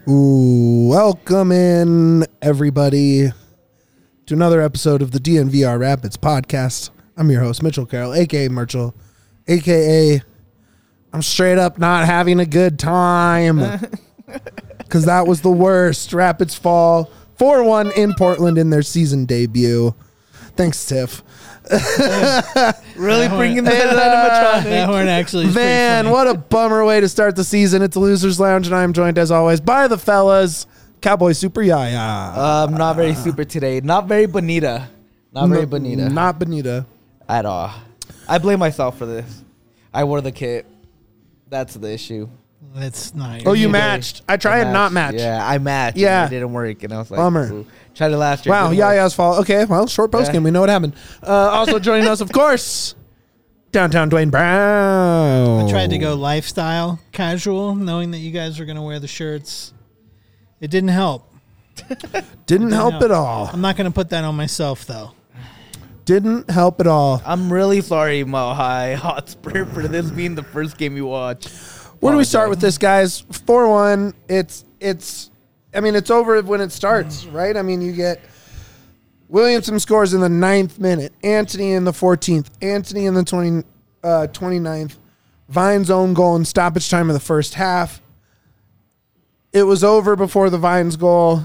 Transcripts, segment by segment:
Ooh, welcome in, everybody, to another episode of the DNVR Rapids podcast. I'm your host, Mitchell Carroll, a.k.a. Merchel, a.k.a. I'm straight up not having a good time because that was the worst. Rapids fall 4-1 in Portland in their season debut. Thanks, Tiff. Really bringing that animatronic. That horn actually is Man, what a bummer way to start the season. It's the Losers Lounge, and I'm joined, as always, by the fellas, Cowboy Super Yaya. Not very super today. Not very bonita. Not very bonita. Not bonita. At all. I blame myself for this. I wore the kit. That's the issue. It's not. Oh, you matched. I tried and not match. Yeah, I matched. Yeah. And it didn't work. And I was like, Bummer. ooh. Tried it last year. Wow, Yaya's fault. Okay, well, short post game. We know what happened. Also joining us, of course, downtown Dwayne Brown. I tried to go lifestyle casual, knowing that you guys were going to wear the shirts. It didn't help. Didn't help at all. I'm not going to put that on myself, though. Didn't help at all. I'm really sorry, Mile High Hotspur, for this being the first game you watch. Where do we start with this, guys? 4-1. It's over when it starts, right? I mean, you get Williamson scores in the 9th minute, Anthony in the 14th, Anthony in the 29th, Vine's own goal in stoppage time of the first half. It was over before the Vine's goal.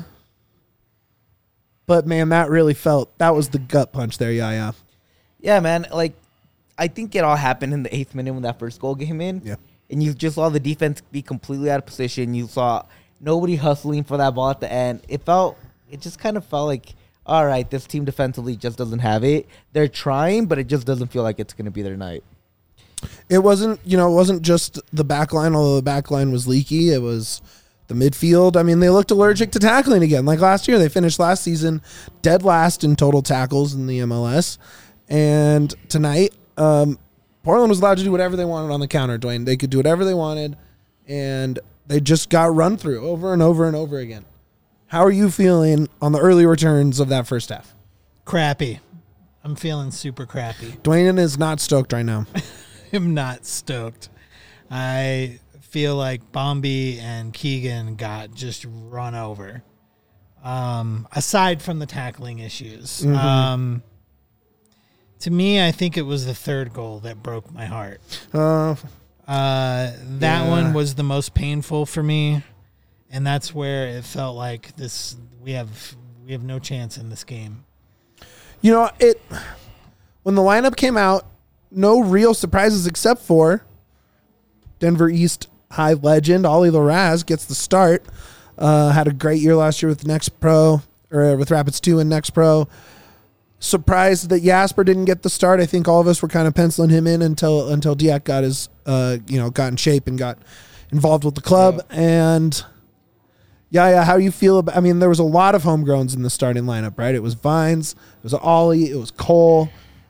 But, man, that really that was the gut punch there, Yaya. Yeah, man. Like, I think it all happened in the 8th minute when that first goal came in. Yeah. And you just saw the defense be completely out of position. You saw nobody hustling for that ball at the end. It just kind of felt like, all right, this team defensively just doesn't have it. They're trying, but it just doesn't feel like it's going to be their night. It wasn't just the back line, although the back line was leaky. It was the midfield. I mean, they looked allergic to tackling again. Like last year, they finished last season dead last in total tackles in the MLS. And tonight, Portland was allowed to do whatever they wanted on the counter, Dwayne. They could do whatever they wanted, and they just got run through over and over and over again. How are you feeling on the early returns of that first half? Crappy. I'm feeling super crappy. Dwayne is not stoked right now. I'm not stoked. I feel like Bombi and Keegan got just run over. Aside from the tackling issues. Mm-hmm. To me, I think it was the third goal that broke my heart. That one was the most painful for me, and that's where it felt like we have no chance in this game. You know, when the lineup came out, no real surprises except for Denver East High legend Ollie Larraz gets the start. Had a great year last year with with Rapids 2 and Next Pro. Surprised that Jasper didn't get the start. I think all of us were kind of penciling him in until Diak got his got in shape and got involved with the club. Yeah. And how do you feel about? I mean, there was a lot of homegrowns in the starting lineup, right? It was Vines, it was Ollie, it was Cole.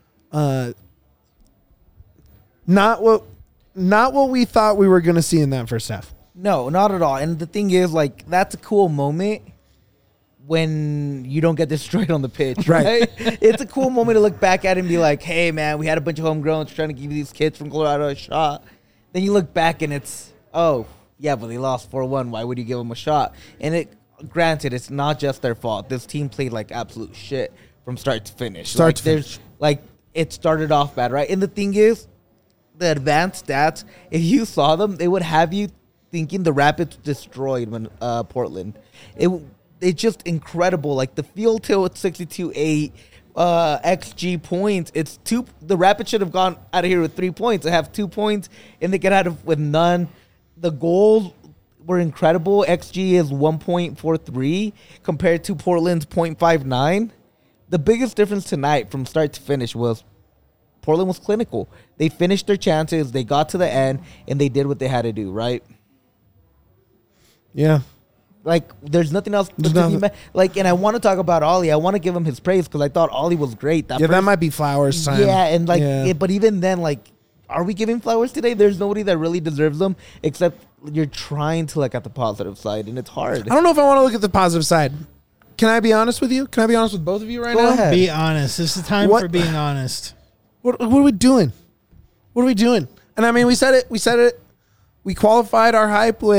Not what we thought we were going to see in that first half. No, not at all. And the thing is, like, that's a cool moment when you don't get destroyed on the pitch, right? It's a cool moment to look back at and be like, hey, man, we had a bunch of homegrowns trying to give these kids from Colorado a shot. Then you look back and it's, oh, yeah, but they lost 4-1. Why would you give them a shot? And granted, it's not just their fault. This team played like absolute shit from start to finish. It started off bad, right? And the thing is, the advanced stats, if you saw them, they would have you thinking the Rapids destroyed Portland. It's just incredible. Like the field tilt at 62-8, XG points. The Rapids should have gone out of here with 3 points. They have 2 points, and they get out of with none. The goals were incredible. XG is 1.43 compared to Portland's 0.59. The biggest difference tonight from start to finish was Portland was clinical. They finished their chances. They got to the end, and they did what they had to do, right? Yeah. Like, there's nothing else to be like, and I want to talk about Ollie. I want to give him his praise because I thought Ollie was great. That might be Flowers' time. Yeah, and but even then, like, are we giving Flowers today? There's nobody that really deserves them except you're trying to look at the positive side, and it's hard. I don't know if I want to look at the positive side. Can I be honest with you? Can I be honest with both of you right now? Go ahead. Be honest. This is the time for being honest. What are we doing? What are we doing? And I mean, we said it. We qualified our hype with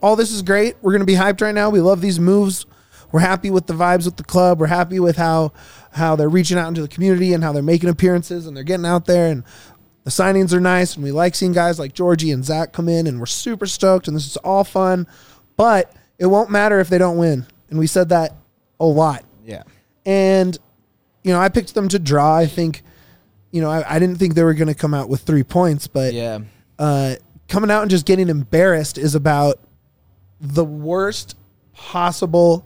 all this is great. We're going to be hyped right now. We love these moves. We're happy with the vibes with the club. We're happy with how they're reaching out into the community and how they're making appearances and they're getting out there, and the signings are nice, and we like seeing guys like Georgie and Zach come in, and we're super stoked, and this is all fun, but it won't matter if they don't win. And we said that a lot. Yeah. And, I picked them to draw. I think, I didn't think they were going to come out with 3 points, but Yeah. Coming out and just getting embarrassed is about the worst possible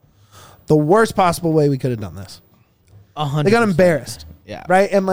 way we could have done this. 100%. They got embarrassed. Yeah. Right? And,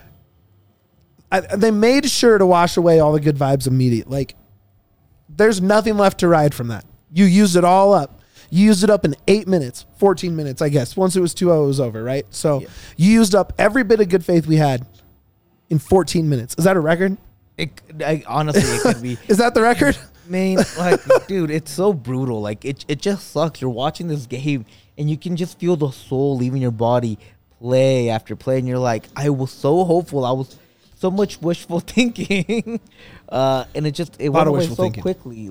they made sure to wash away all the good vibes immediately. There's nothing left to ride from that. You used it all up. You used it up in 8 minutes, 14 minutes, I guess. Once it was 2-0, it was over, right? So you used up every bit of good faith we had in 14 minutes. Is that a record? Honestly, it could be. Is that the record? Man, dude, it's so brutal. It just sucks. You're watching this game, and you can just feel the soul leaving your body play after play, and you're like, I was so hopeful. I was so much wishful thinking. And it went away so quickly.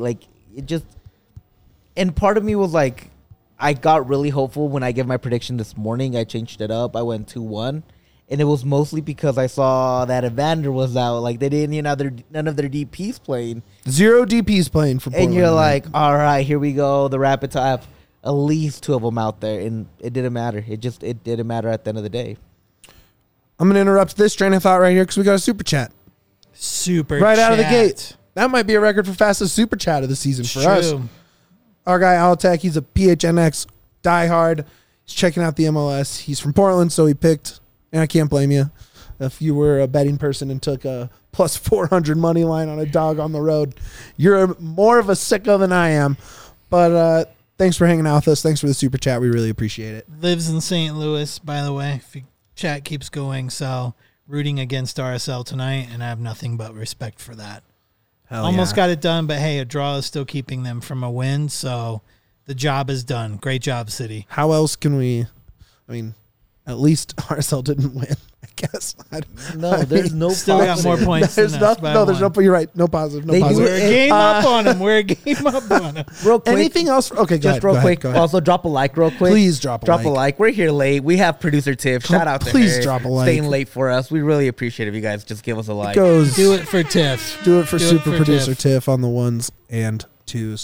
And part of me was like, I got really hopeful when I gave my prediction this morning. I changed it up. I went 2-1. And it was mostly because I saw that Evander was out. They didn't, none of their DPs playing. 0 DPs playing for Portland. And you're like, all right, here we go. The Rapids have at least 2 of them out there. And it didn't matter. It didn't matter at the end of the day. I'm going to interrupt this train of thought right here because we got a super chat. Right out of the gate. That might be a record for fastest super chat of the season for us. Our guy, Altec, he's a PHNX diehard. He's checking out the MLS. He's from Portland, so he picked, and I can't blame you. If you were a betting person and took a plus 400 money line on a dog on the road, you're more of a sicko than I am. But thanks for hanging out with us. Thanks for the super chat. We really appreciate it. Lives in St. Louis, by the way. If your chat keeps going, so rooting against RSL tonight, and I have nothing but respect for that. Almost got it done, but hey, a draw is still keeping them from a win, so the job is done. Great job, City. How else can we? At least RSL didn't win, I guess. There's no still got more points. There's you're right. No positive. No positive. We're a game up on them. We're a game up on them. Real quick. Anything else? Okay, just real quick. Also, drop a like real quick. Please drop a like. We're here late. We have producer Tiff. Shout out to her. Please drop a like. Staying late for us. We really appreciate it if you guys just give us a like. Do it for Tiff. Do it for super producer Tiff on the 1s and 2s.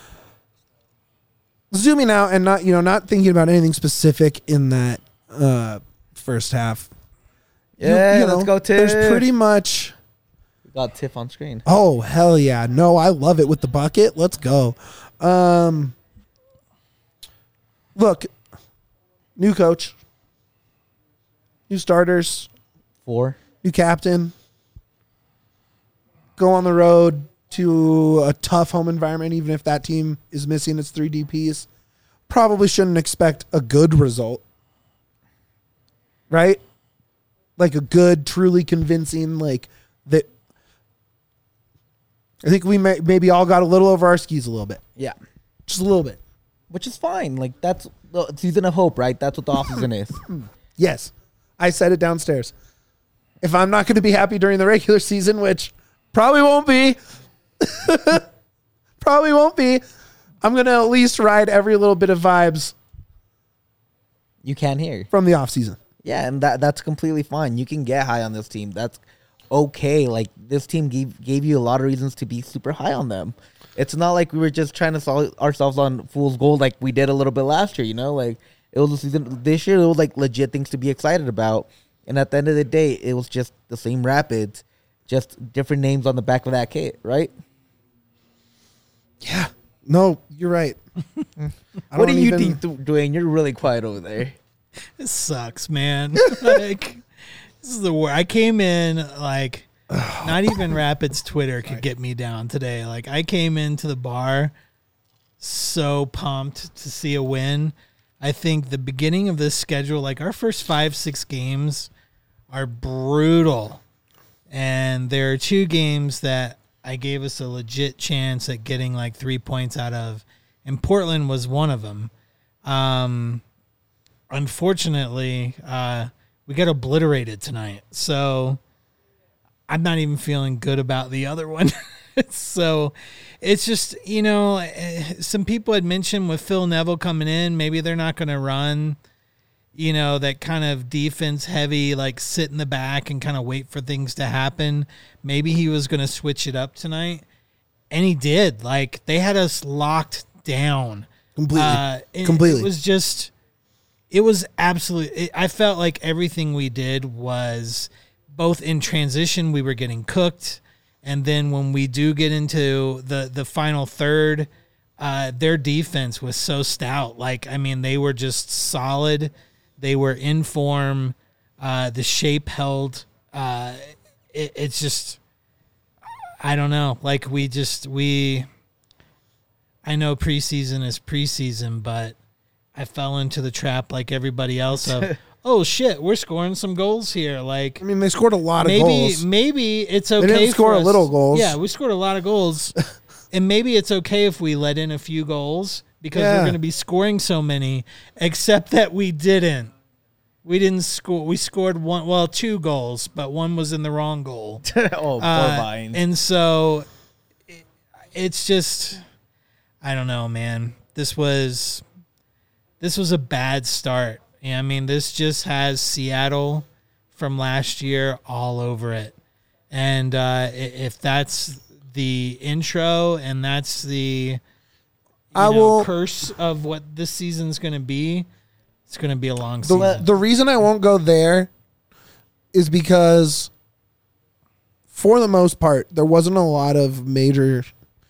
Zooming out and not thinking about anything specific in that first half. Yeah, let's go, Tiff. There's pretty much... We got Tiff on screen. Oh, hell yeah. No, I love it with the bucket. Let's go. Look, new coach, new starters, 4, new captain, go on the road to a tough home environment, even if that team is missing its 3 DPs. Probably shouldn't expect a good result. Right? A good, truly convincing, that. I think we maybe all got a little over our skis a little bit. Yeah. Just a little bit. Which is fine. That's the season of hope, right? That's what the offseason is. Yes. I said it downstairs. If I'm not going to be happy during the regular season, which probably won't be, I'm going to at least ride every little bit of vibes. You can hear. From the offseason. Yeah, and that's completely fine. You can get high on this team. That's okay. This team gave you a lot of reasons to be super high on them. It's not like we were just trying to sell ourselves on fool's gold like we did a little bit last year, It was a season. This year, it was legit things to be excited about. And at the end of the day, it was just the same Rapids, just different names on the back of that kit, right? Yeah. No, you're right. What do you think, Dwayne? You're really quiet over there. It sucks, man. This is the worst. I came in not even Rapids Twitter could get me down today. I came into the bar so pumped to see a win. I think the beginning of this schedule, our first 5-6 games are brutal. And there are 2 games that I gave us a legit chance at getting 3 points out of. And Portland was one of them. Unfortunately, we got obliterated tonight. So I'm not even feeling good about the other one. So it's just, some people had mentioned with Phil Neville coming in, maybe they're not going to run, that kind of defense heavy, like sit in the back and kind of wait for things to happen. Maybe he was going to switch it up tonight. And he did. Like, they had us locked down. Completely. It was absolutely, I felt like everything we did was both in transition, we were getting cooked. And then when we do get into the final third, their defense was so stout. Like, I mean, they were just solid. They were in form. The shape held. It's just, I don't know. Like, I know preseason is preseason, but I fell into the trap like everybody else of, oh shit, we're scoring some goals here. Like, I mean, they scored a lot of goals. Maybe it's okay. They didn't score a little goals. Yeah, we scored a lot of goals, and maybe it's okay if we let in a few goals because we're going to be scoring so many. Except that we didn't. We didn't score. We scored two goals, but one was in the wrong goal. Poor Vines. And so it's just, I don't know, man. This was a bad start. Yeah, I mean, this just has Seattle from last year all over it. And if that's the intro and that's the curse of what this season's going to be, it's going to be a long season. The reason I won't go there is because, for the most part, there wasn't a lot of major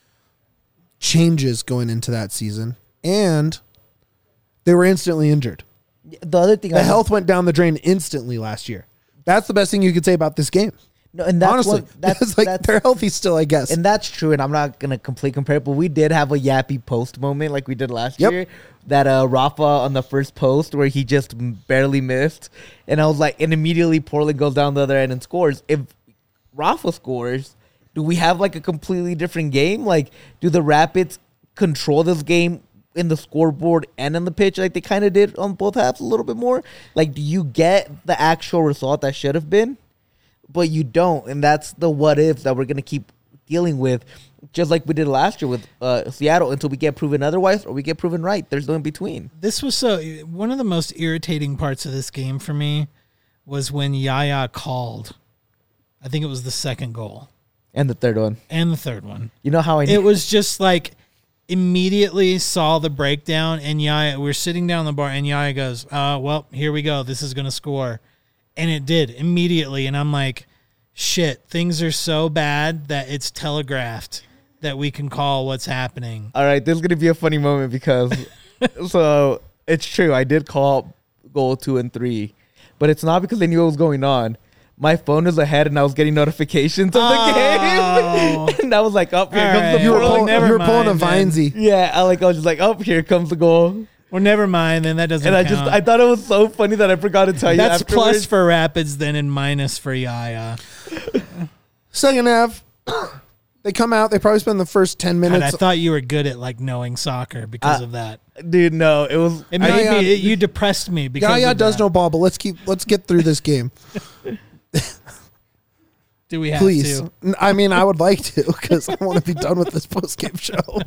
changes going into that season. And they were instantly injured. The other thing, the health went down the drain instantly last year. That's the best thing you could say about this game. No, and that's honestly, that's they're healthy still, I guess. And that's true. And I'm not gonna completely compare it, but we did have a yappy post moment like we did last year. That Rafa on the first post where he just barely missed, and I was like, and immediately Portland goes down the other end and scores. If Rafa scores, do we have like a completely different game? Like, do the Rapids control this game in the scoreboard and on the pitch like they kind of did on both halves a little bit more? Like, do you get the actual result that should have been? But you don't, and that's the what ifs that we're going to keep dealing with, just like we did last year with Seattle, until we get proven otherwise or we get proven right. There's no in between. This was one of the most irritating parts of this game for me was when Yaya called. I think it was the second goal. And the third one. You know how I knew? It was just like, immediately saw the breakdown, and Yaya, we're sitting down the bar, and Yaya goes, well, here we go. This is going to score. And it did immediately. And I'm like, shit, things are so bad that it's telegraphed that we can call what's happening. All right, this is going to be a funny moment because, so it's true. I did call goal 2 and 3, but it's not because I knew what was going on. My phone was ahead, and I was getting notifications of the game. And I was like, "Up here comes the goal." You were pulling a Vinesy. Yeah, I was just like, "Up here comes the goal." Well, never mind. Then that doesn't. And count. I thought it was so funny that I forgot to tell you. That's plus for Rapids then, and minus for Yaya. Second half, they come out. They probably spend the first 10 minutes. God, I thought you were good at like knowing soccer because of that. Dude, no, it was. It made me. You depressed me because Yaya does know ball, but let's get through this game. Do we have Please. to? I mean, I would like to because I want to be done with this post-game show.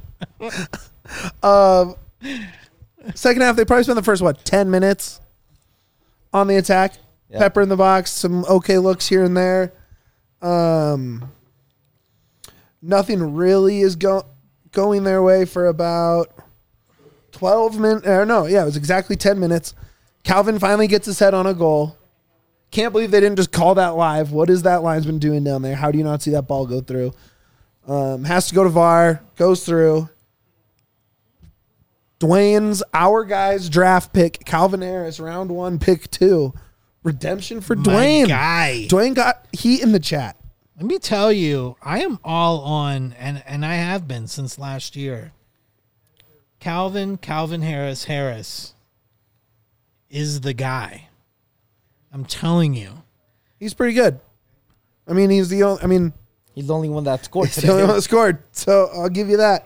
Second half, they probably spend the first, 10 minutes on the attack. Yep. Pepper in the box, some okay looks here and there. Nothing really is going their way for about 12 minutes. It was exactly 10 minutes. Calvin finally gets his head on a goal. Can't believe they didn't just call that live. What is that linesman doing down there? How do you not see that ball go through? Has to go to VAR. Goes through. Dwayne's our guy's draft pick. Calvin Harris, round 1, pick 2. Redemption for Dwayne. My guy. Dwayne got heat in the chat. Let me tell you, I am all on, and I have been since last year. Calvin Harris is the guy. I'm telling you. He's pretty good. I mean, he's the only one that scored today. He's the only one that scored, so I'll give you that.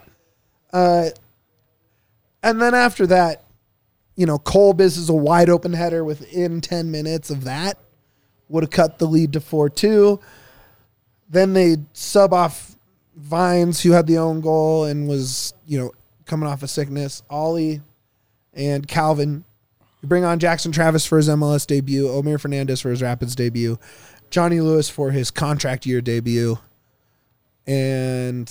And then after that, Colbis is a wide open header within 10 minutes of that. Would have cut the lead to 4-2. Then they sub off Vines, who had the own goal and was, coming off a sickness. Ollie and Calvin. You bring on Jackson Travis for his MLS debut. Omir Fernandez for his Rapids debut. Johnny Lewis for his contract year debut. And,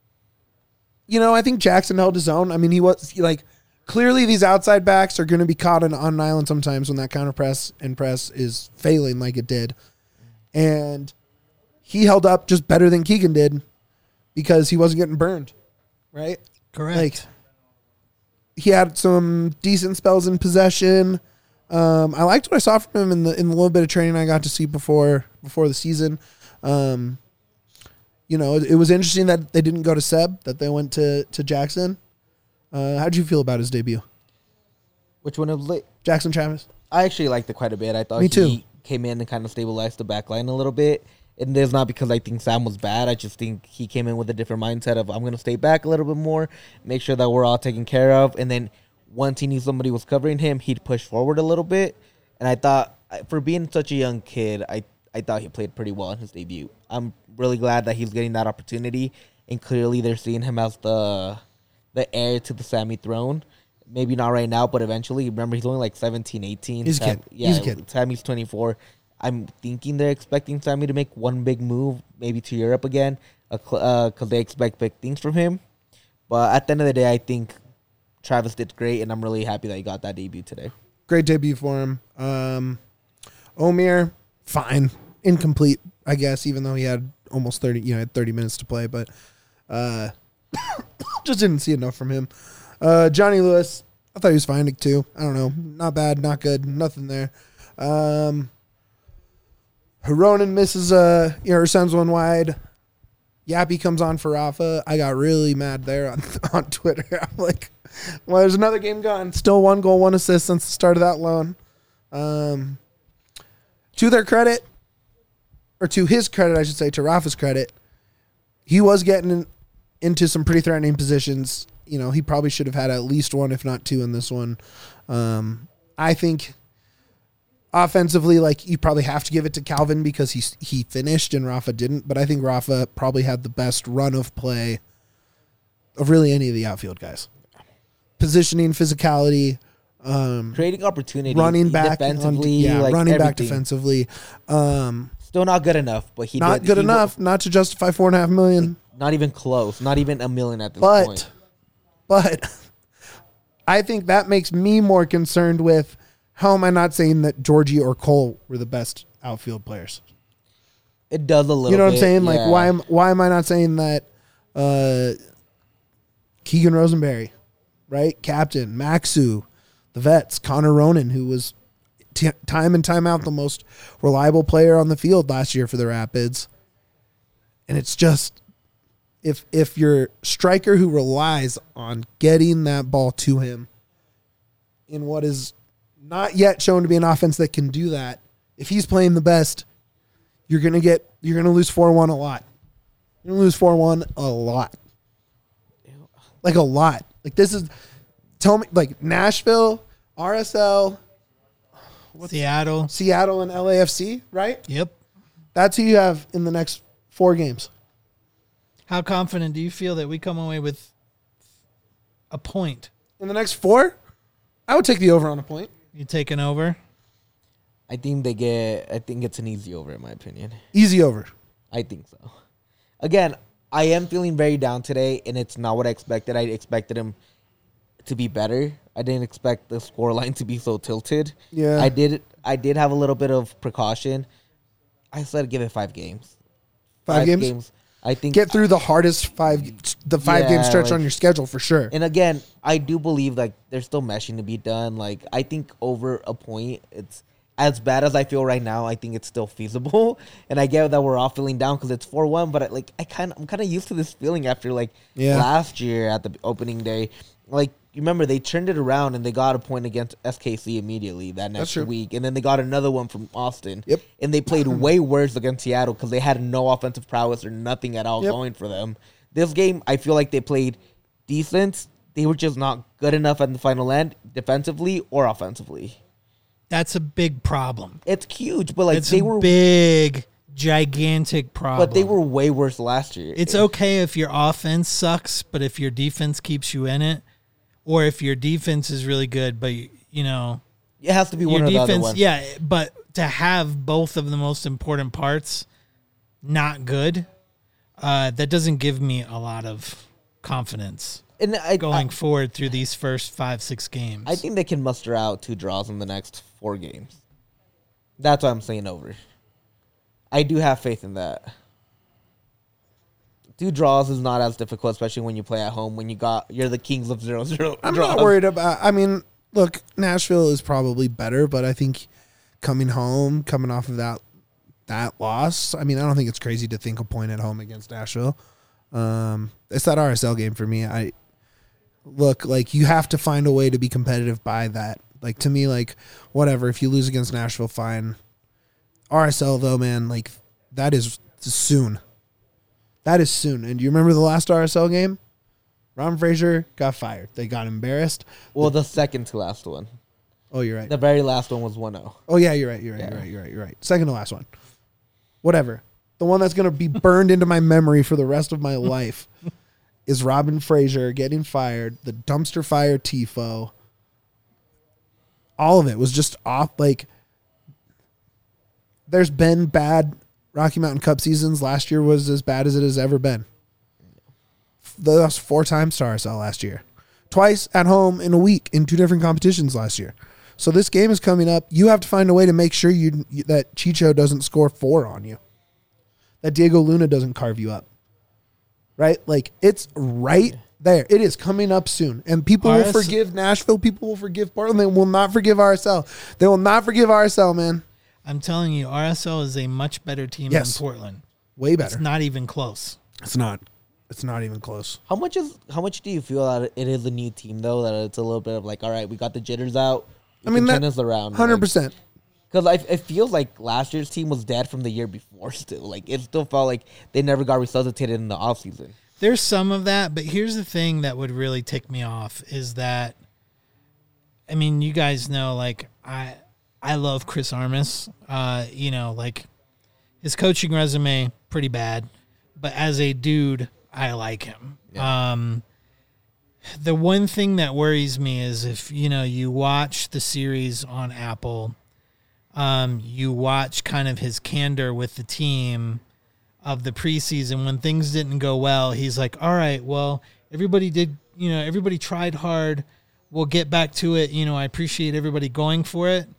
I think Jackson held his own. I mean, he was, clearly these outside backs are going to be caught on an island sometimes when that counter press and press is failing like it did. And he held up just better than Keegan did because he wasn't getting burned, right? Correct. He had some decent spells in possession. I liked what I saw from him in the little bit of training I got to see before the season. It was interesting that they didn't go to Seb, that they went to Jackson. How'd you feel about his debut? Which one of Jackson Travis? I actually liked it quite a bit. I thought he came in and kind of stabilized the back line a little bit. And it's not because I think Sam was bad. I just think he came in with a different mindset of, I'm going to stay back a little bit more, make sure that we're all taken care of. And then once he knew somebody was covering him, he'd push forward a little bit. And I thought, for being such a young kid, I thought he played pretty well in his debut. I'm really glad that he's getting that opportunity. And clearly they're seeing him as the heir to the Sammy throne. Maybe not right now, but eventually. Remember, he's only like 17, 18. He's a kid. He's a kid. Sammy's 24. I'm thinking they're expecting Sammy to make one big move, maybe to Europe again, because they expect big things from him. But at the end of the day, I think Travis did great, and I'm really happy that he got that debut today. Great debut for him. Omir, fine. Incomplete, I guess, even though he had almost 30, had 30 minutes to play, but just didn't see enough from him. Johnny Lewis, I thought he was fine too. I don't know. Not bad, not good, nothing there. Hironen misses her sends one wide. Yappy comes on for Rafa. I got really mad there on Twitter. I'm like, well, there's another game gone. Still 1 goal, 1 assist since the start of that loan. To their credit, or to his credit, I should say, to Rafa's credit, he was getting into some pretty threatening positions. He probably should have had at least 1, if not 2 in this one. I think offensively, you probably have to give it to Calvin because he finished and Rafa didn't. But I think Rafa probably had the best run of play of really any of the outfield guys. Positioning, physicality, creating opportunity, running back defensively, running back everything. Defensively. Still not good enough, but not good enough not to justify $4.5 million. Not even close. Not even $1 million at this point. But I think that makes me more concerned with how am I not saying that Georgie or Cole were the best outfield players? It does a little bit. You know what I'm saying? Yeah. Why am I not saying that Keegan Rosenberry, right? Captain, Maxu, the vets, Connor Ronan, who was time and time out the most reliable player on the field last year for the Rapids. And it's just, if your striker who relies on getting that ball to him in what is not yet shown to be an offense that can do that, if he's playing the best, you're gonna lose 4-1 a lot. You're gonna lose 4-1 a lot. Like a lot. Tell me, Nashville, RSL, Seattle, and LAFC, right? Yep. That's who you have in the next 4 games. How confident do you feel that we come away with a point? In the next 4? I would take the over on a point. You taking over? I think it's an easy over in my opinion. Easy over. I think so. Again, I am feeling very down today, and it's not what I expected. I expected him to be better. I didn't expect the scoreline to be so tilted. Yeah. I did have a little bit of precaution. I said give it 5 games. 5 games? I think get through the hardest 5-game stretch on your schedule for sure. And again, I do believe there's still meshing to be done. I think over a point, it's as bad as I feel right now. I think it's still feasible, and I get that we're all feeling down because it's 4-1. But I'm kind of used to this feeling after last year at the opening day. You remember they turned it around and they got a point against SKC immediately that next week, and then they got another one from Austin. Yep. And they played way worse against Seattle because they had no offensive prowess or nothing at all going for them. This game, I feel like they played decent. They were just not good enough at the final end, defensively or offensively. That's a big problem. It's huge, but they were big gigantic problem. But they were way worse last year. It's okay if your offense sucks, but if your defense keeps you in it, or if your defense is really good, but you know, it has to be one or the other one. Yeah, but to have both of the most important parts not good, that doesn't give me a lot of confidence going forward through these first 5-6 games. I think they can muster out 2 draws in the next 4 games. That's why I'm saying over. I do have faith in that. 2 draws is not as difficult, especially when you play at home. When you're the kings of 0-0. I'm not worried about. I mean, look, Nashville is probably better, but I think coming off of that loss, I mean, I don't think it's crazy to think a point at home against Nashville. It's that RSL game for me. Like you have to find a way to be competitive by that. Like to me, like whatever. If you lose against Nashville, fine. RSL though, man, like that is soon. That is soon. And do you remember the last RSL game? Ron Fraser got fired. They got embarrassed. Well, the second to last one. Oh, you're right. The very last one was 1-0. Oh yeah, you're right. You're right. Second to last one. Whatever. The one that's gonna be burned into my memory for the rest of my life is Robin Fraser getting fired. The dumpster fire tifo. All of it was just off. Like, there's been bad Rocky Mountain Cup seasons. Last year was as bad as it has ever been. They lost 4 times to RSL last year. Twice at home in a week in 2 different competitions last year. So this game is coming up. You have to find a way to make sure that Chicho doesn't score 4 on you. That Diego Luna doesn't carve you up. Right? Like, it's right there. It is coming up soon. And people will forgive Nashville. People will forgive Portland. They will not forgive RSL. They will not forgive RSL, man. I'm telling you, RSL is a much better team than Portland. Way better. It's not even close. It's not even close. How much do you feel that it is a new team though? That it's a little bit of like, all right, we got the jitters out. I mean, turn this around 100%. Because it feels like last year's team was dead from the year before. Still, like it still felt like they never got resuscitated in the offseason. There's some of that, but here's the thing that would really tick me off is that, I mean, you guys know, like I love Chris Armas. You know, like his coaching resume pretty bad, but as a dude, I like him. Yeah. The one thing that worries me is if you watch the series on Apple, you watch kind of his candor with the team of the preseason when things didn't go well. He's like, all right, well, everybody tried hard. We'll get back to it. I appreciate everybody going for it.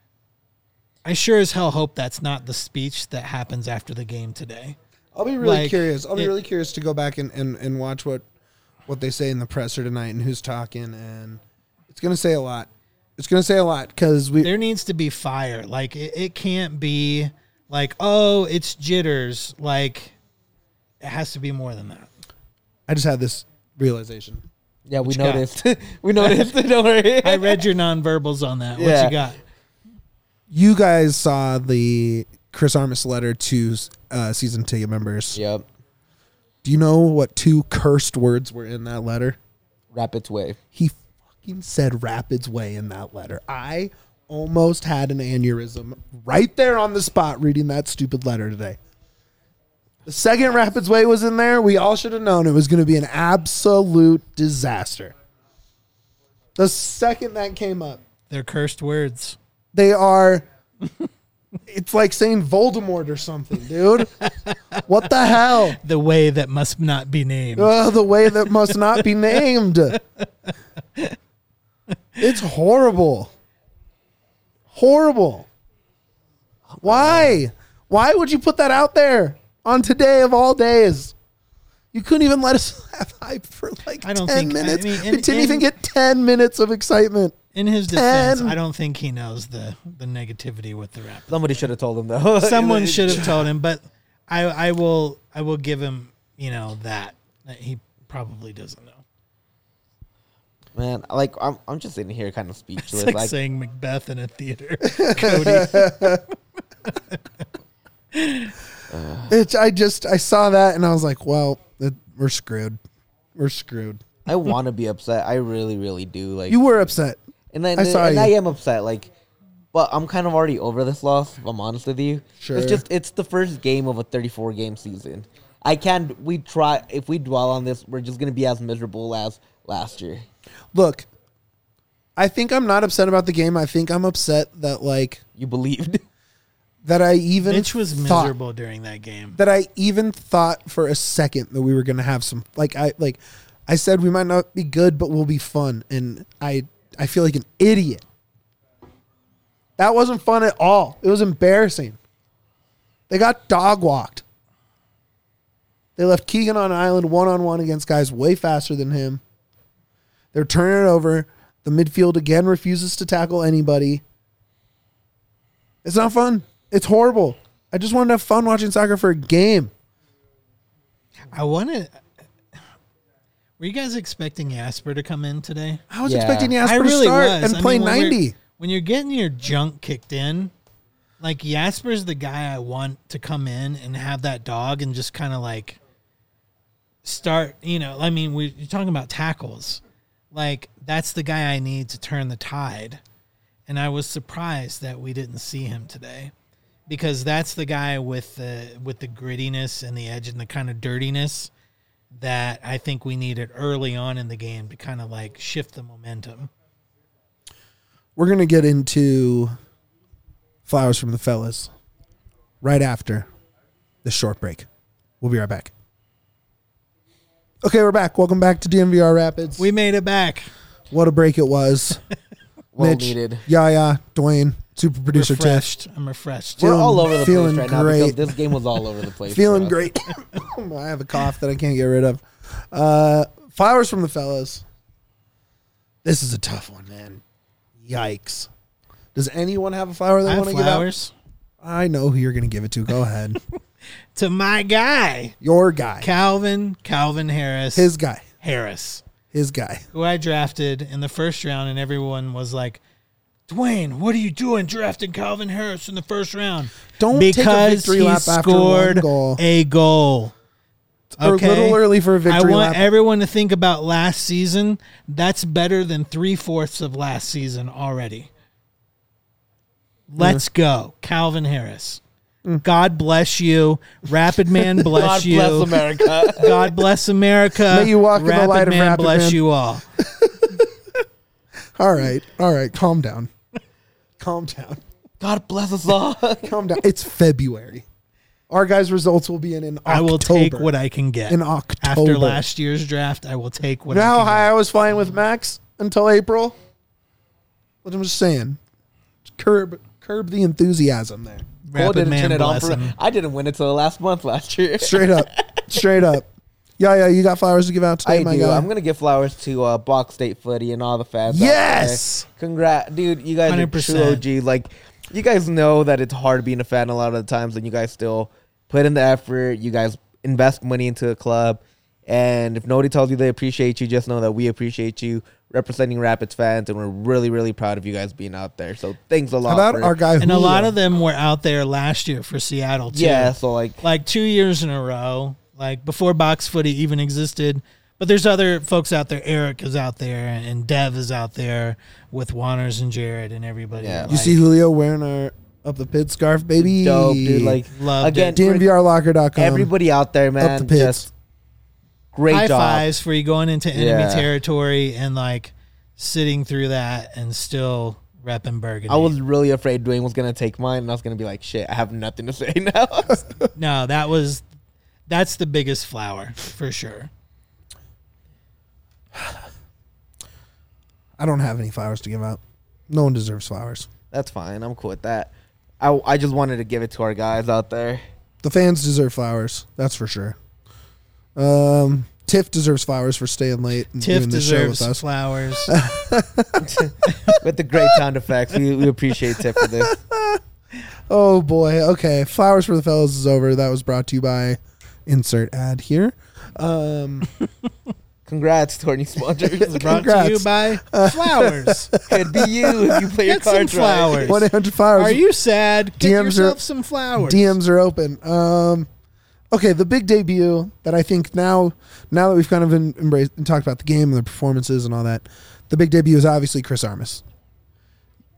I sure as hell hope that's not the speech that happens after the game today. I'll be really curious. I'll be really curious to go back and watch what they say in the presser tonight and who's talking. And it's going to say a lot. It's going to say a lot because there needs to be fire. Like it can't be like, oh, it's jitters. Like it has to be more than that. I just had this realization. Yeah, we noticed. We noticed. Don't worry. I read your nonverbals on that. What you got? You guys saw the Chris Armas letter to season ticket members. Yep. Do you know what 2 cursed words were in that letter? Rapids Way. He fucking said Rapids Way in that letter. I almost had an aneurysm right there on the spot reading that stupid letter today. The second Rapids Way was in there, we all should have known it was going to be an absolute disaster. The second that came up. They're cursed words. They are. It's like saying Voldemort or something, dude. What the hell? The way that must not be named. The way that must not be named. It's horrible. Horrible. Why? Why would you put that out there on today of all days? You couldn't even let us have hype for like 10 minutes. We didn't even get 10 minutes of excitement. In his defense, I don't think he knows the negativity with the rap. Somebody should have told him though. Someone should have told him, but I will give him that he probably doesn't know. Man, like I'm just sitting here kind of speechless. It's like saying Macbeth in a theater. Cody. I saw that and I was like, well, we're screwed. We're screwed. I want to be upset. I really, really do. Like you were upset. And I am upset. Like, But I'm kind of already over this loss, if I'm honest with you. Sure. It's the first game of a 34-game season. If we dwell on this, we're just going to be as miserable as last year. Look, I think I'm not upset about the game. I think I'm upset that, like... You believed. That I even Mitch was miserable during that game. That I even thought for a second that we were going to have some... I said we might not be good, but we'll be fun. And I feel like an idiot. That wasn't fun at all. It was embarrassing. They got dog walked. They left Keegan on an island one-on-one against guys way faster than him. They're turning it over. The midfield again refuses to tackle anybody. It's not fun. It's horrible. I just wanted to have fun watching soccer for a game. Were you guys expecting Jasper to come in today? I was expecting Jasper to start and play 90. When you're getting your junk kicked in, like Jasper's the guy I want to come in and have that dog and just kind of like start, you're talking about tackles. Like, that's the guy I need to turn the tide. And I was surprised that we didn't see him today, because that's the guy with the grittiness and the edge and the kind of dirtiness that I think we needed early on in the game to kind of like shift the momentum. We're going to get into flowers from the fellas right after this short break. We'll be right back. Okay, we're back. Welcome back to DNVR Rapids. We made it back. What a break it was. Well Mitch, needed. Yaya, Dwayne, super producer refreshed. Tiff. I'm refreshed. We're all over the place right great. now because this game was all over the place. Feeling great. I have a cough that I can't get rid of. Flowers from the fellas. This is a tough one, man. Yikes. Does anyone have a flower they want to give out? I know who you're going to give it to. Go ahead. To my guy. Your guy. Calvin Harris. His guy. His guy. Who I drafted in the first round, and everyone was like, Dwayne, what are you doing drafting Calvin Harris in the first round? Don't take a victory lap after one goal. A goal. Okay. A little early for a victory lap. I want everyone to think about last season. That's better than 3/4 of last season already. Let's go. Calvin Harris. God bless you. Rapid Man bless you. God bless America. God bless America. May you walk in the light of Rapid bless Man. you all. All right. Calm down. God bless us all. Calm down. It's February. Our guys' results will be in October. I will take what I can get. In October. After last year's draft, I will take what I can get. You know how high I was flying with Max until April? But I'm just saying. Curb the enthusiasm there. Rapid Man bless him. I didn't win it till last month last year. Straight up. Yeah, you got flowers to give out today, my guy. I'm going to give flowers to Bach State Footy and all the fans. Yes! Congrats. Dude, you guys 100%. Are true OG. Like, you guys know that it's hard being a fan a lot of the times, and you guys still put in the effort. You guys invest money into a club. And if nobody tells you they appreciate you, just know that we appreciate you representing Rapids fans, and we're really, really proud of you guys being out there. So thanks a lot. How about our guy Julio? And a lot of them were out there last year for Seattle, too. Yeah, so like 2 years in a row, like before Box Footy even existed. But there's other folks out there. Eric is out there, and Dev is out there with Wanners and Jared and everybody. Yeah. You see Julio wearing our Up the Pit scarf, baby? Dope, dude. Like, loved again, it. DNVRlocker.com. Everybody out there, man. Up the Pits. Just great High job. fives for you going into enemy territory and like sitting through that and still repping Burgundy. I was really afraid Dwayne was going to take mine, and I was going to be like, shit, I have nothing to say now. No, that's the biggest flower for sure. I don't have any flowers to give out. No one deserves flowers. That's fine. I'm cool with that. I just wanted to give it to our guys out there. The fans deserve flowers. That's for sure. Tiff deserves flowers for staying late and Tiff doing this show with us. Flowers. With the great sound effects. We appreciate Tiff for this. Oh, boy. Okay. Flowers for the fellas is over. That was brought to you by insert ad here. Congrats to our new sponsors. Brought to you by Flowers. Could be you if you play your cards some flowers. right. 1-800 flowers. Are you sad? Get DMs yourself some flowers. DMs are open. Okay, the big debut that I think now that we've kind of embraced and talked about the game and the performances and all that, the big debut is obviously Chris Armas.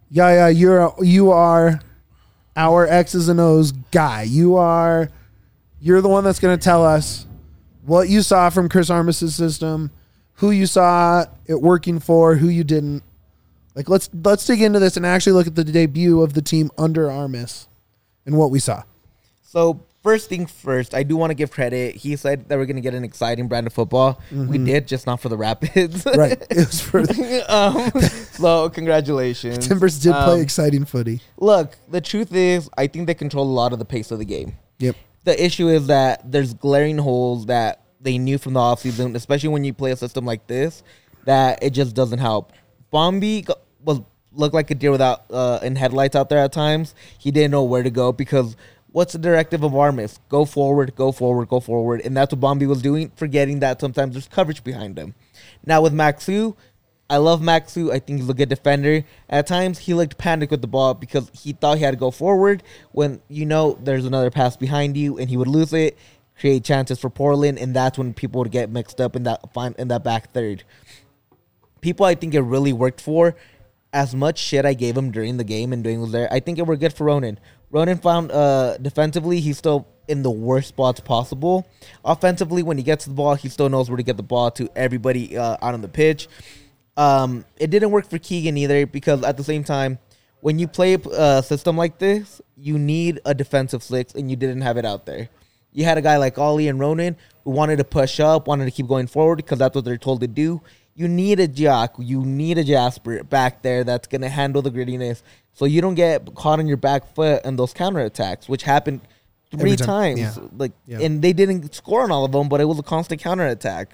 Yeah, you are our X's and O's guy. You're the one that's going to tell us what you saw from Chris Armas' system, who you saw it working for, who you didn't. Like, let's dig into this and actually look at the debut of the team under Armas and what we saw. So, first thing first, I do want to give credit. He said that we're going to get an exciting brand of football. Mm-hmm. We did, just not for the Rapids. Right. It was for so, congratulations. Timbers did play exciting footy. Look, the truth is, I think they control a lot of the pace of the game. Yep. The issue is that there's glaring holes that they knew from the offseason, especially when you play a system like this, that it just doesn't help. Bombi looked like a deer without in headlights out there at times. He didn't know where to go because what's the directive of Armas? Go forward, go forward, go forward. And that's what Bombi was doing, forgetting that sometimes there's coverage behind him. Now with Maxu, I love Maxu. I think he's a good defender. At times, he looked panicked with the ball because he thought he had to go forward when, there's another pass behind you, and he would lose it, create chances for Portland, and that's when people would get mixed up in that back third. People I think it really worked for, as much shit I gave him during the game and doing was there, I think it were good for Ronan. Ronan found defensively, he's still in the worst spots possible. Offensively, when he gets the ball, he still knows where to get the ball to everybody out on the pitch. It didn't work for Keegan either because at the same time, when you play a system like this, you need a defensive six, and you didn't have it out there. You had a guy like Ollie and Ronan who wanted to push up, wanted to keep going forward because that's what they're told to do. You need a Jack, you need a Jasper back there that's going to handle the grittiness so you don't get caught on your back foot in those counterattacks, which happened three times. Yeah. And they didn't score on all of them, but it was a constant counterattack.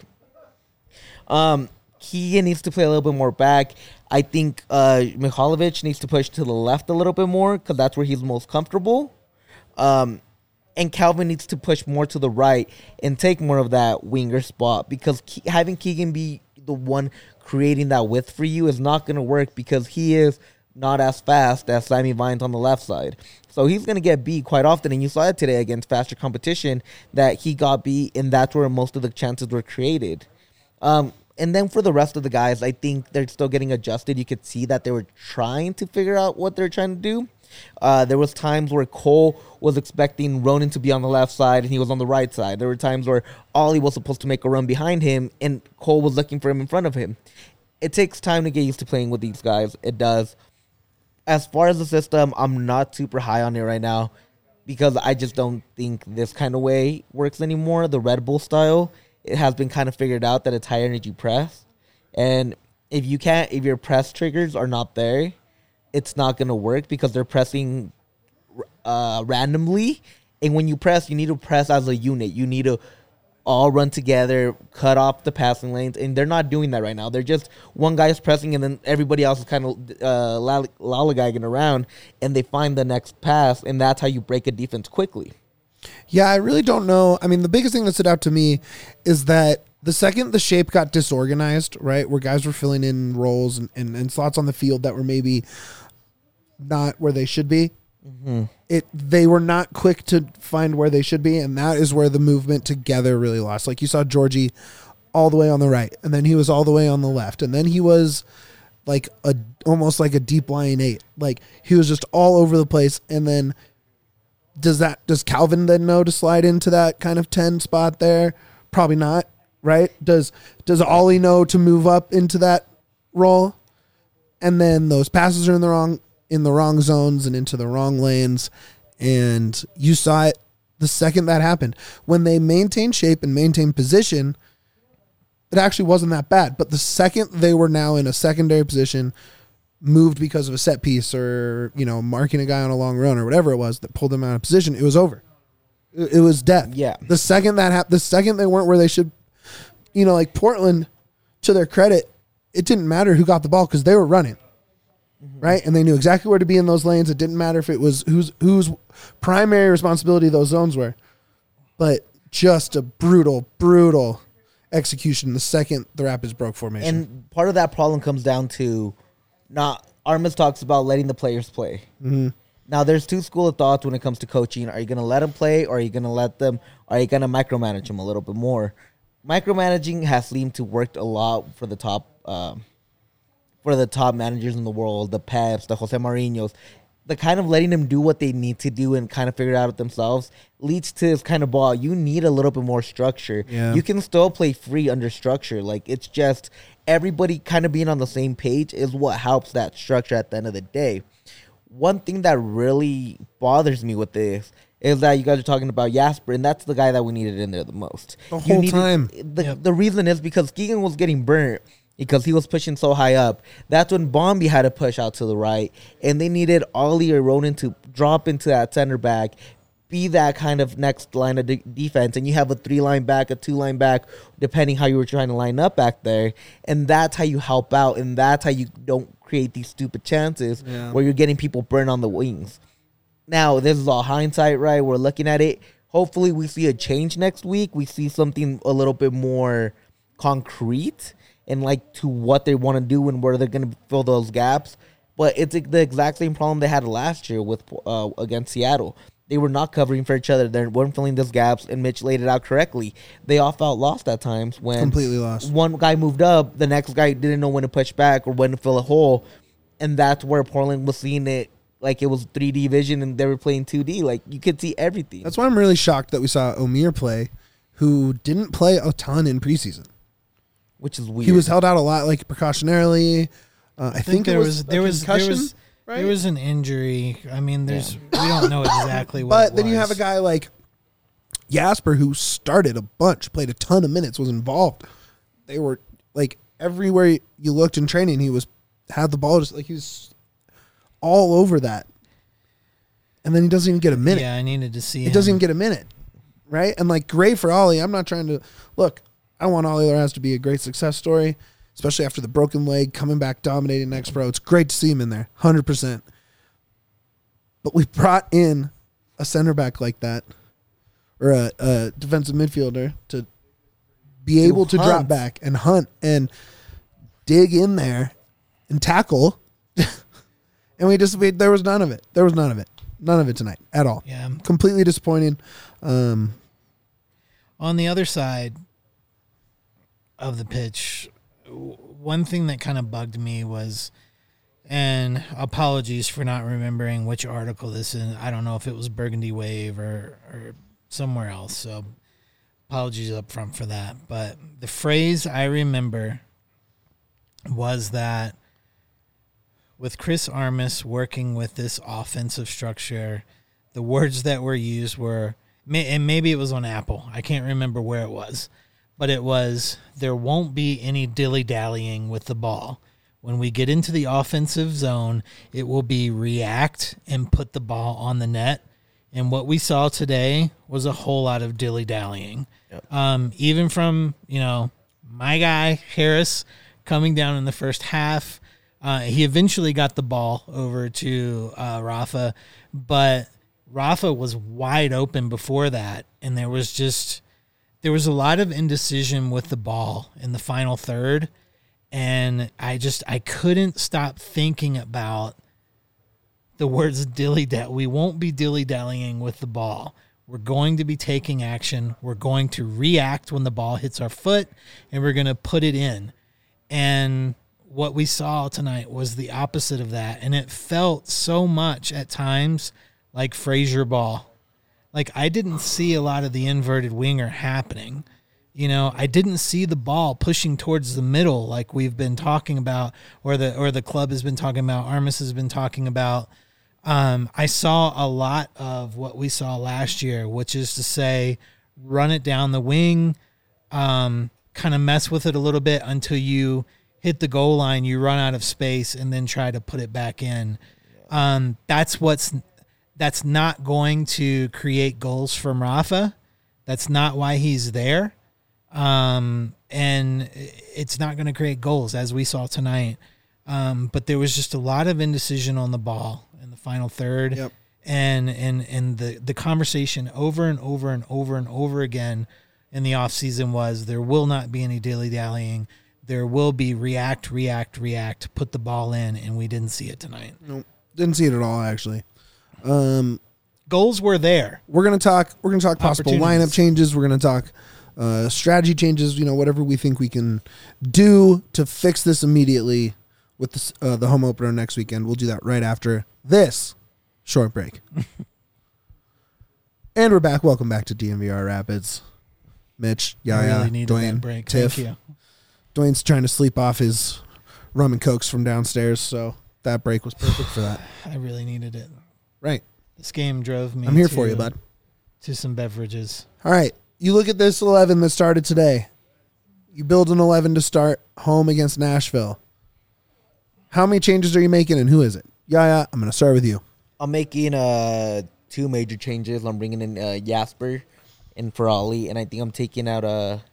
Keegan needs to play a little bit more back. I think Mihalovic needs to push to the left a little bit more because that's where he's most comfortable. And Calvin needs to push more to the right and take more of that winger spot because having Keegan be the one creating that width for you is not going to work because he is not as fast as Sammy Vines on the left side. So he's going to get beat quite often, and you saw it today against faster competition that he got beat, and that's where most of the chances were created. And then for the rest of the guys, I think they're still getting adjusted. You could see that they were trying to figure out what they're trying to do. There was times where Cole was expecting Ronan to be on the left side and he was on the right side. There were times where Ollie was supposed to make a run behind him and Cole was looking for him in front of him. It takes time to get used to playing with these guys. It does. As far as the system, I'm not super high on it right now because I just don't think this kind of way works anymore. The Red Bull style, it has been kind of figured out that it's high energy press. And if your press triggers are not there, it's not going to work because they're pressing randomly. And when you press, you need to press as a unit. You need to all run together, cut off the passing lanes. And they're not doing that right now. They're just one guy is pressing and then everybody else is kind of lollygagging around. And they find the next pass. And that's how you break a defense quickly. Yeah, I really don't know. I mean, the biggest thing that stood out to me is that the second the shape got disorganized, right, where guys were filling in roles and slots on the field that were maybe not where they should be. Mm-hmm. They were not quick to find where they should be, and that is where the movement together really lost. Like you saw Georgie all the way on the right, and then he was all the way on the left, and then he was like almost like a deep lying 8. Like he was just all over the place. And then does Calvin then know to slide into that kind of 10 spot there? Probably not, right? Does Ollie know to move up into that role? And then those passes are in the wrong zones and into the wrong lanes. And you saw it the second that happened. When they maintained shape and maintained position, it actually wasn't that bad. But the second they were now in a secondary position, moved because of a set piece or, marking a guy on a long run or whatever it was that pulled them out of position, it was over. It was death. Yeah. The second that happened, the second they weren't where they should, like Portland, to their credit, it didn't matter who got the ball because they were running. Right? And they knew exactly where to be in those lanes. It didn't matter if it was whose primary responsibility those zones were. But just a brutal execution the second the Rapids broke formation. And part of that problem comes down to Armas talks about letting the players play. Mm-hmm. Now, there's two school of thoughts when it comes to coaching. Are you going to let them play or are you going to micromanage them a little bit more? Micromanaging has seemed to work a lot for the top for the top managers in the world, the Peps, the Jose Mourinhos, the kind of letting them do what they need to do and kind of figure it out themselves leads to this kind of ball. You need a little bit more structure. Yeah. You can still play free under structure. Like, it's just everybody kind of being on the same page is what helps that structure at the end of the day. One thing that really bothers me with this is that you guys are talking about Jasper, and that's the guy that we needed in there the most. The whole time. The reason is because Keegan was getting burnt because he was pushing so high up. That's when Bombi had to push out to the right, and they needed Ollie or Ronan to drop into that center back, be that kind of next line of defense, and you have a 3-line back, a 2-line back, depending how you were trying to line up back there, and that's how you help out, and that's how you don't create these stupid chances where you're getting people burned on the wings. Now, this is all hindsight, right? We're looking at it. Hopefully, we see a change next week. We see something a little bit more concrete and like to what they want to do and where they're going to fill those gaps. But it's the exact same problem they had last year with against Seattle. They were not covering for each other. They weren't filling those gaps, and Mitch laid it out correctly. They all felt lost at times when completely lost. One guy moved up, the next guy didn't know when to push back or when to fill a hole, and that's where Portland was seeing it like it was 3D vision and they were playing 2D. Like, you could see everything. That's why I'm really shocked that we saw Omir play, who didn't play a ton in preseason. Which is weird. He was held out a lot, like precautionarily. I think there was an injury. I mean, we don't know exactly what. But then you have a guy like Jasper who started a bunch, played a ton of minutes, was involved. They were like everywhere you looked in training, he had the ball, just like he was all over that. And then he doesn't even get a minute. Yeah, I needed to see. He doesn't even get a minute, right? And like, great for Ollie. I'm not trying to look. I want Ollie Larraz to be a great success story, especially after the broken leg, coming back, dominating next pro. It's great to see him in there, 100%. But we brought in a center back like that, or a defensive midfielder, to be able to drop back and hunt and dig in there and tackle. And there was none of it. There was none of it. None of it tonight at all. Yeah. Completely disappointing. On the other side of the pitch, one thing that kind of bugged me was, and apologies for not remembering which article this is. I don't know if it was Burgundy Wave or somewhere else. So apologies up front for that. But the phrase I remember was that with Chris Armas working with this offensive structure, the words that were used were, and maybe it was on Apple, I can't remember where it was, but it was, there won't be any dilly-dallying with the ball. When we get into the offensive zone, it will be react and put the ball on the net. And what we saw today was a whole lot of dilly-dallying. Yep. Even from, my guy, Harris, coming down in the first half. He eventually got the ball over to Rafa, but Rafa was wide open before that, and there was a lot of indecision with the ball in the final third, and I couldn't stop thinking about the words dilly-dally. We won't be dilly-dallying with the ball. We're going to be taking action. We're going to react when the ball hits our foot, and we're going to put it in. And what we saw tonight was the opposite of that, and it felt so much at times like Frazier ball. Like, I didn't see a lot of the inverted winger happening. I didn't see the ball pushing towards the middle like we've been talking about, or the club has been talking about, Armas has been talking about. I saw a lot of what we saw last year, which is to say, run it down the wing, kind of mess with it a little bit until you hit the goal line, you run out of space, and then try to put it back in. That's not going to create goals from Rafa. That's not why he's there. And it's not going to create goals, as we saw tonight. But there was just a lot of indecision on the ball in the final third. Yep. And the conversation over and over and over and over again in the offseason was, there will not be any dilly-dallying. There will be react, put the ball in, and we didn't see it tonight. Nope, didn't see it at all, actually. Goals were there. We're gonna talk possible lineup changes. We're gonna talk strategy changes. Whatever we think we can do to fix this immediately with the home opener next weekend. We'll do that right after this short break. And we're back. Welcome back to DNVR Rapids. Mitch, Yaya, really needed Dwayne, that break. Tiff. Thank you. Dwayne's trying to sleep off his rum and cokes from downstairs, so that break was perfect for that. I really needed it. Right. This game drove me. I'm here for you, bud. To some beverages. All right. You look at this 11 that started today. You build an 11 to start home against Nashville. How many changes are you making, and who is it? Yaya, I'm going to start with you. I'm making 2 major changes. I'm bringing in Jasper and Ferrali, and I think I'm taking out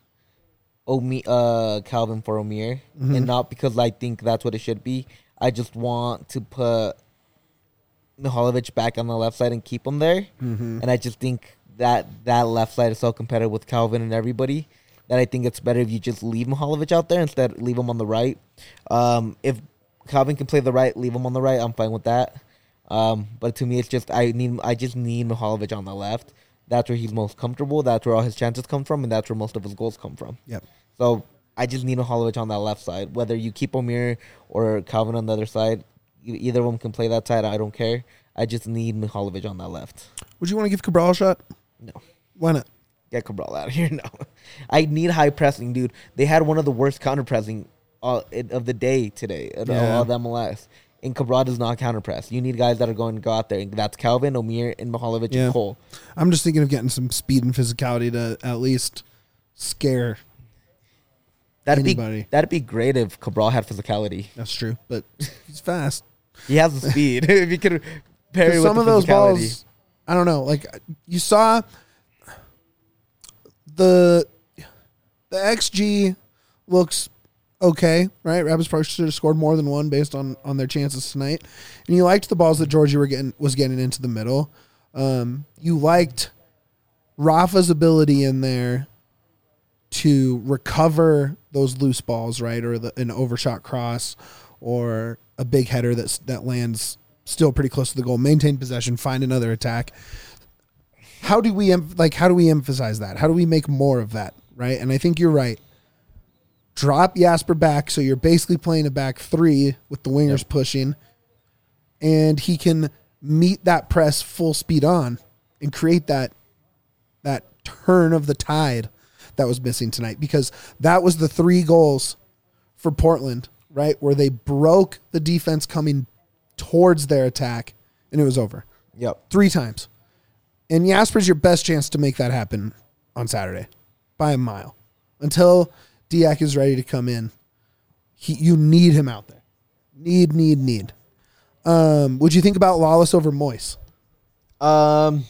Calvin for Omir, and not because I think that's what it should be. I just want to put Mihalovic back on the left side and keep him there, and I just think that left side is so competitive with Calvin and everybody that I think it's better if you just leave Mihalovic out there instead leave him on the right. If Calvin can play the right, leave him on the right, I'm fine with that. But to me, it's just I just need Mihalovic on the left. That's where he's most comfortable. That's where all his chances come from, and that's where most of his goals come from. Yep. So I just need Mihalovic on that left side. Whether you keep Omir or Calvin on the other side, either of them can play that side. I don't care. I just need Mihalovic on that left. Would you want to give Cabral a shot? No. Why not? Get Cabral out of here. No. I need high pressing, dude. They had one of the worst counter pressing of the day today of the MLS. And Cabral does not counter press. You need guys that are going to go out there. And that's Calvin, Omir, and Mihalovic and Cole. I'm just thinking of getting some speed and physicality to at least scare anybody. That'd be great if Cabral had physicality. That's true, but he's fast. He has the speed. If you could pair it with some of those physicality. balls, I don't know. Like you saw the XG looks okay, right? Rapids Park should have scored more than one based on their chances tonight. And you liked the balls that Georgie was getting into the middle. You liked Rafa's ability in there to recover those loose balls, right? Or an overshot cross or a big header that lands still pretty close to the goal. Maintain possession, find another attack. How do we emphasize that? How do we make more of that, right? And I think you're right. Drop Jasper back, so you're basically playing a back 3 with the wingers pushing, and he can meet that press full speed on and create that turn of the tide that was missing tonight, because that was the 3 goals for Portland, right, where they broke the defense coming towards their attack, and it was over. Yep. 3 times. And Jasper's your best chance to make that happen on Saturday by a mile. Until Diak is ready to come in, you need him out there. Need. Would you think about Lawless over Moise? I'd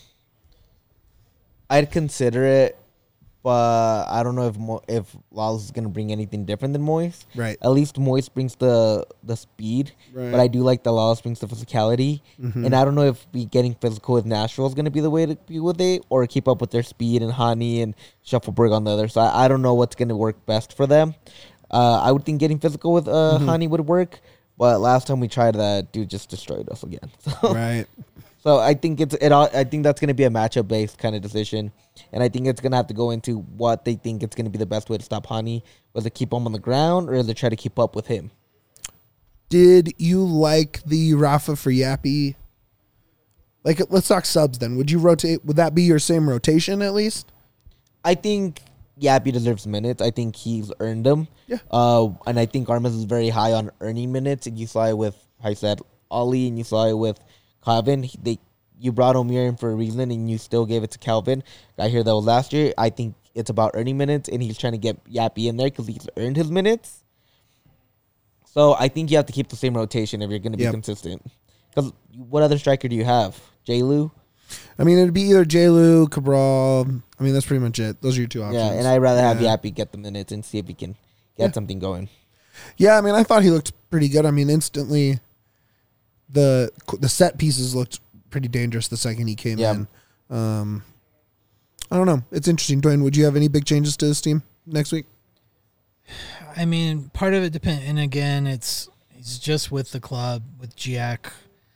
consider it, but I don't know if Lawless is going to bring anything different than Moise. Right. At least Moise brings the speed, right. But I do like that Lawless brings the physicality. Mm-hmm. And I don't know if getting physical with Nashville is going to be the way to be with it, or keep up with their speed and Hani and Shuffleberg on the other side. I don't know what's going to work best for them. I would think getting physical with Hani would work, but last time we tried that, dude just destroyed us again. So. Right. So I think I think that's going to be a matchup based kind of decision, and I think it's going to have to go into what they think it's going to be the best way to stop Hani. Was it keep him on the ground, or is it try to keep up with him? Did you like the Rafa for Yappy? Like, let's talk subs then. Would you rotate? Would that be your same rotation at least? I think Yappy deserves minutes. I think he's earned them. Yeah. And I think Armas is very high on earning minutes. And you saw it with, I said, Ollie, and you saw it with Calvin. You brought Omir in for a reason, and you still gave it to Calvin. I hear that was last year. I think it's about earning minutes, and he's trying to get Yappy in there because he's earned his minutes. So I think you have to keep the same rotation if you're going to be consistent. Because what other striker do you have? J-Lou? I mean, it'd be either J-Lou, Cabral. I mean, that's pretty much it. Those are your 2 options. Yeah, and I'd rather have Yappy get the minutes and see if he can get something going. Yeah, I mean, I thought he looked pretty good. I mean, instantly the set pieces looked pretty dangerous the second he came in. I don't know. It's interesting. Dwayne, would you have any big changes to this team next week? I mean, part of it depends. And again, it's just with the club, with Giac,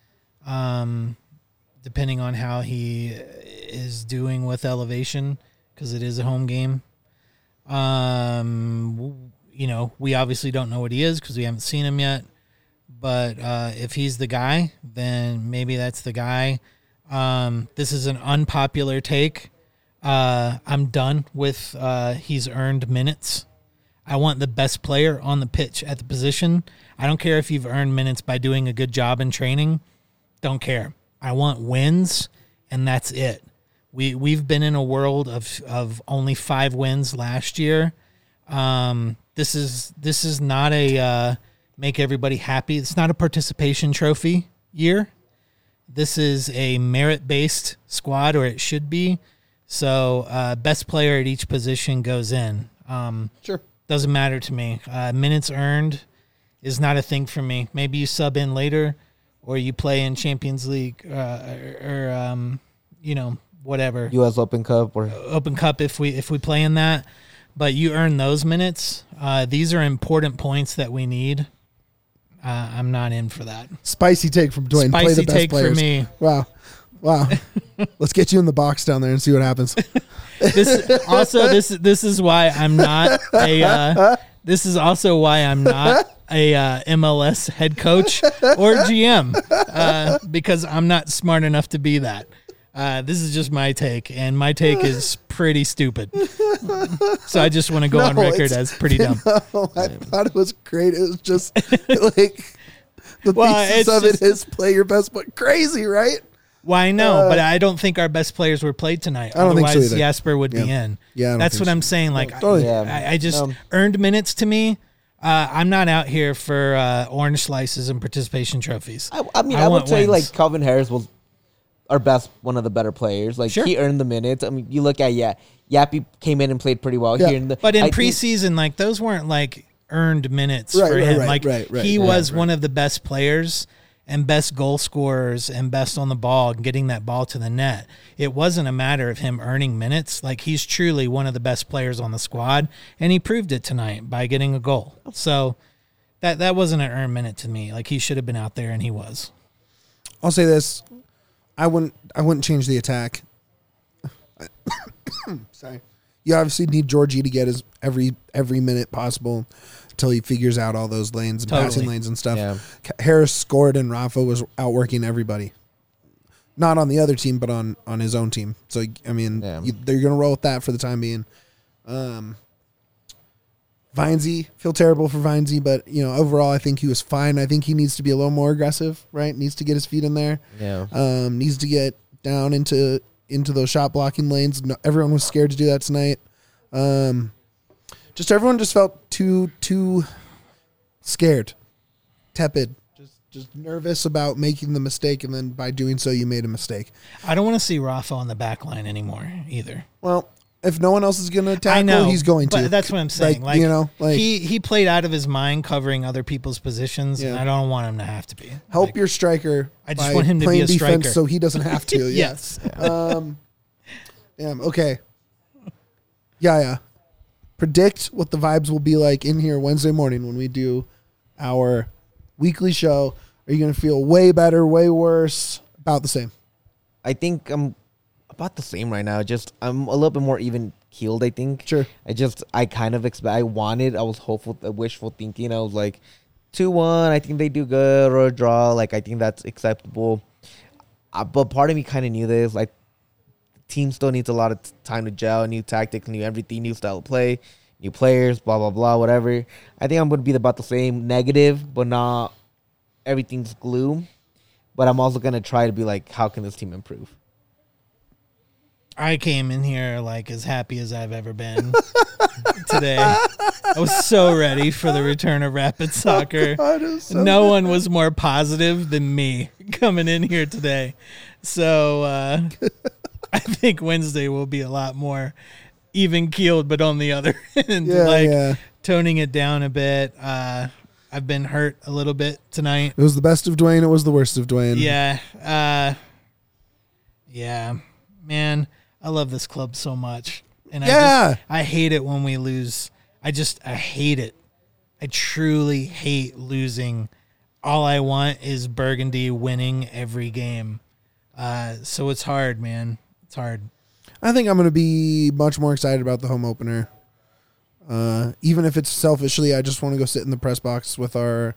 depending on how he is doing with elevation, because it is a home game. You know, we obviously don't know what he is because we haven't seen him yet. but if he's the guy, then maybe that's the guy. This is an unpopular take. I'm done with he's earned minutes. I want the best player on the pitch at the position. I don't care if you've earned minutes by doing a good job in training. Don't care. I want wins, and that's it. We've been in a world of only 5 wins last year. This is not a make everybody happy. It's not a participation trophy year. This is a merit-based squad, or it should be. So best player at each position goes in. Sure. Doesn't matter to me. Minutes earned is not a thing for me. Maybe you sub in later, or you play in Champions League, or whatever. U.S. Open Cup or Open Cup if we play in that. But you earn those minutes. These are important points that we need. I'm not in for that. Spicy take from Dwayne. Play the Spicy best take players. for me. Wow. Let's get you in the box down there and see what happens. This is why I'm not a. This is also why I'm not a MLS head coach or GM because I'm not smart enough to be that. This is just my take, and my take is pretty stupid. So I just want to go on record as pretty dumb. No, I thought it was great. It was just like the pieces of it is play your best, but crazy, right? Well, I know, but I don't think our best players were played tonight. I don't think so Otherwise, either. Jasper would be in. Yeah, that's what I'm saying. Like, totally. I just earned minutes to me. I'm not out here for orange slices and participation trophies. I would say like Calvin Harris was our best, one of the better players. Like Sure. he earned the minutes. I mean, you look at Yappy came in and played pretty well here. But in preseason, like those weren't like earned minutes for him. He was one of the best players and best goal scorers and best on the ball and getting that ball to the net. It wasn't a matter of him earning minutes. Like he's truly one of the best players on the squad, and he proved it tonight by getting a goal. So that wasn't an earned minute to me. Like he should have been out there, and he was. I'll say this. I wouldn't change the attack. Sorry. You obviously need Georgie to get his every minute possible until he figures out all those lanes and passing lanes and stuff. Yeah. Harris scored and Rafa was outworking everybody. Not on the other team, but on his own team. So, I mean, they're going to roll with that for the time being. Vinesy, feel terrible for Vinesy, but, overall I think he was fine. I think he needs to be a little more aggressive, right? Needs to get his feet in there. Yeah. Needs to get down into those shot blocking lanes. No, everyone was scared to do that tonight. Just everyone just felt too scared, tepid, just nervous about making the mistake, and then by doing so, you made a mistake. I don't want to see Rafa on the back line anymore either. Well, if no one else is going to tackle, he's going to. But that's what I'm saying. Like, he played out of his mind covering other people's positions, and I don't want him to have to be. Help your striker. I just want him to be a striker, so he doesn't have to. Yes. Okay. Yeah. Predict what the vibes will be like in here Wednesday morning when we do our weekly show. Are you going to feel way better, way worse, about the same? I think I'm about the same right now. Just I'm a little bit more even keeled, I think. Sure. I kind of expect. I was hopeful, wishful thinking. I was like 2-1. I think they do good, or a draw. Like I think that's acceptable. But part of me kind of knew this. Like team still needs a lot of time to gel, new tactics, new everything, new style of play, new players, blah blah blah, whatever. I think I'm going to be about the same, negative, but not everything's gloom. But I'm also going to try to be like, how can this team improve? I came in here like as happy as I've ever been today. I was so ready for the return of Rapid Soccer. No one was more positive than me coming in here today. So I think Wednesday will be a lot more even keeled, but on the other end, toning it down a bit. I've been hurt a little bit tonight. It was the best of Dwayne. It was the worst of Dwayne. Yeah. Man, I love this club so much. And I hate it when we lose. I hate it. I truly hate losing. All I want is Burgundy winning every game. So it's hard, man. It's hard. I think I'm going to be much more excited about the home opener. Even if it's selfishly, I just want to go sit in the press box with our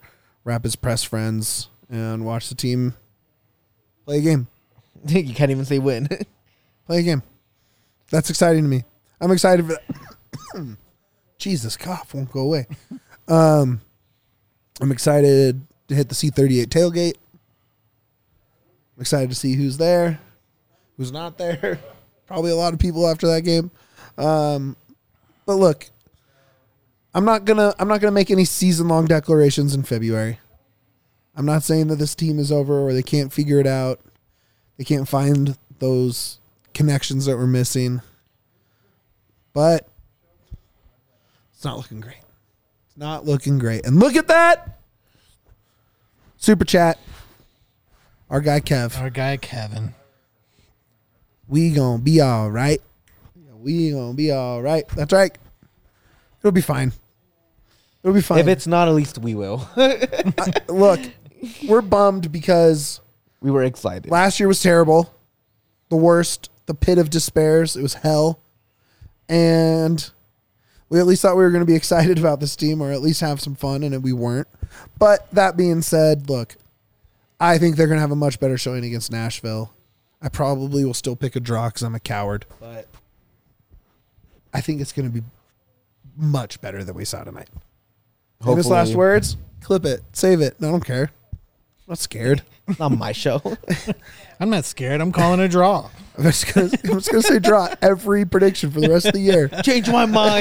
Rapids press friends and watch the team play a game. You can't even say win. Play a game. That's exciting to me. I'm excited for that. Jesus, cough won't go away. I'm excited to hit the C38 tailgate. I'm excited to see who's there, who's not there. Probably a lot of people after that game. But look, I'm not gonna make any season-long declarations in February. I'm not saying that this team is over or they can't figure it out. They can't find those connections that we're missing. But it's not looking great. It's not looking great. And look at that. Super chat. Our guy Kevin. We gonna be all right. We gonna be all right. That's right. It'll be fine. It'll be fine. If it's not, at least we will. Look, we're bummed because we were excited. Last year was terrible. The worst. The pit of despairs. It was hell. And we at least thought we were going to be excited about this team or at least have some fun, and we weren't. But that being said, look, I think they're going to have a much better showing against Nashville. I probably will still pick a draw because I'm a coward. But I think it's going to be much better than we saw tonight. Famous last words? Clip it. Save it. No, I don't care. I'm not scared. It's not my show. I'm not scared. I'm calling a draw. I'm just gonna say draw every prediction for the rest of the year. Change my mind.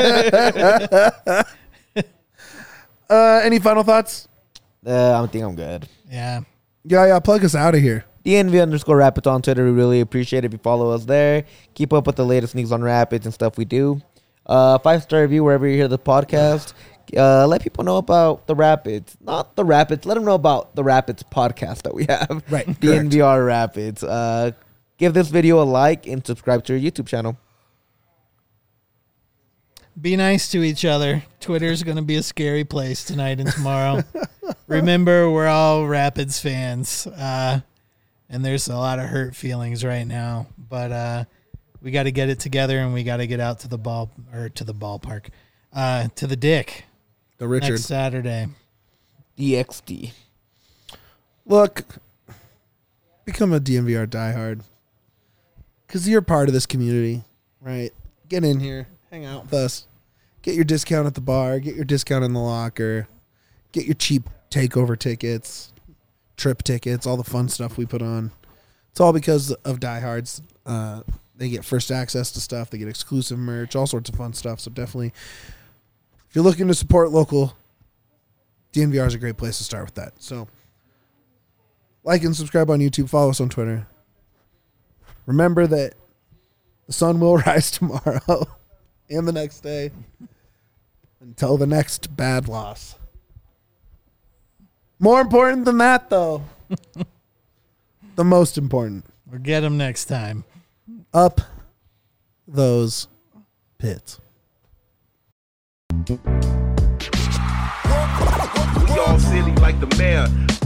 Any final thoughts? I think I'm good. Yeah. Yeah. Plug us out of here. DNV_Rapids on Twitter. We really appreciate it if you follow us there. Keep up with the latest news on Rapids and stuff we do. 5-star review wherever you hear the podcast. Let people know about the Rapids. Not the Rapids. Let them know about the Rapids podcast that we have. Right. DNVR Rapids. Give this video a like and subscribe to our YouTube channel. Be nice to each other. Twitter's going to be a scary place tonight and tomorrow. Remember, we're all Rapids fans. And there's a lot of hurt feelings right now. But we got to get it together, and we got to get out to the ballpark. To the Dick. The Richard. Next Saturday. DXD. Look, become a DNVR diehard. Because you're part of this community, right? Get in here. Hang out with us. Get your discount at the bar. Get your discount in the locker. Get your cheap takeover tickets, trip tickets, all the fun stuff we put on. It's all because of diehards. They get first access to stuff. They get exclusive merch, all sorts of fun stuff. So definitely, if you're looking to support local, DNVR is a great place to start with that. So like and subscribe on YouTube. Follow us on Twitter. Remember that the sun will rise tomorrow and the next day until the next bad loss. More important than that, though, the most important. We'll get them next time. Up those pits. We all silly like the mayor.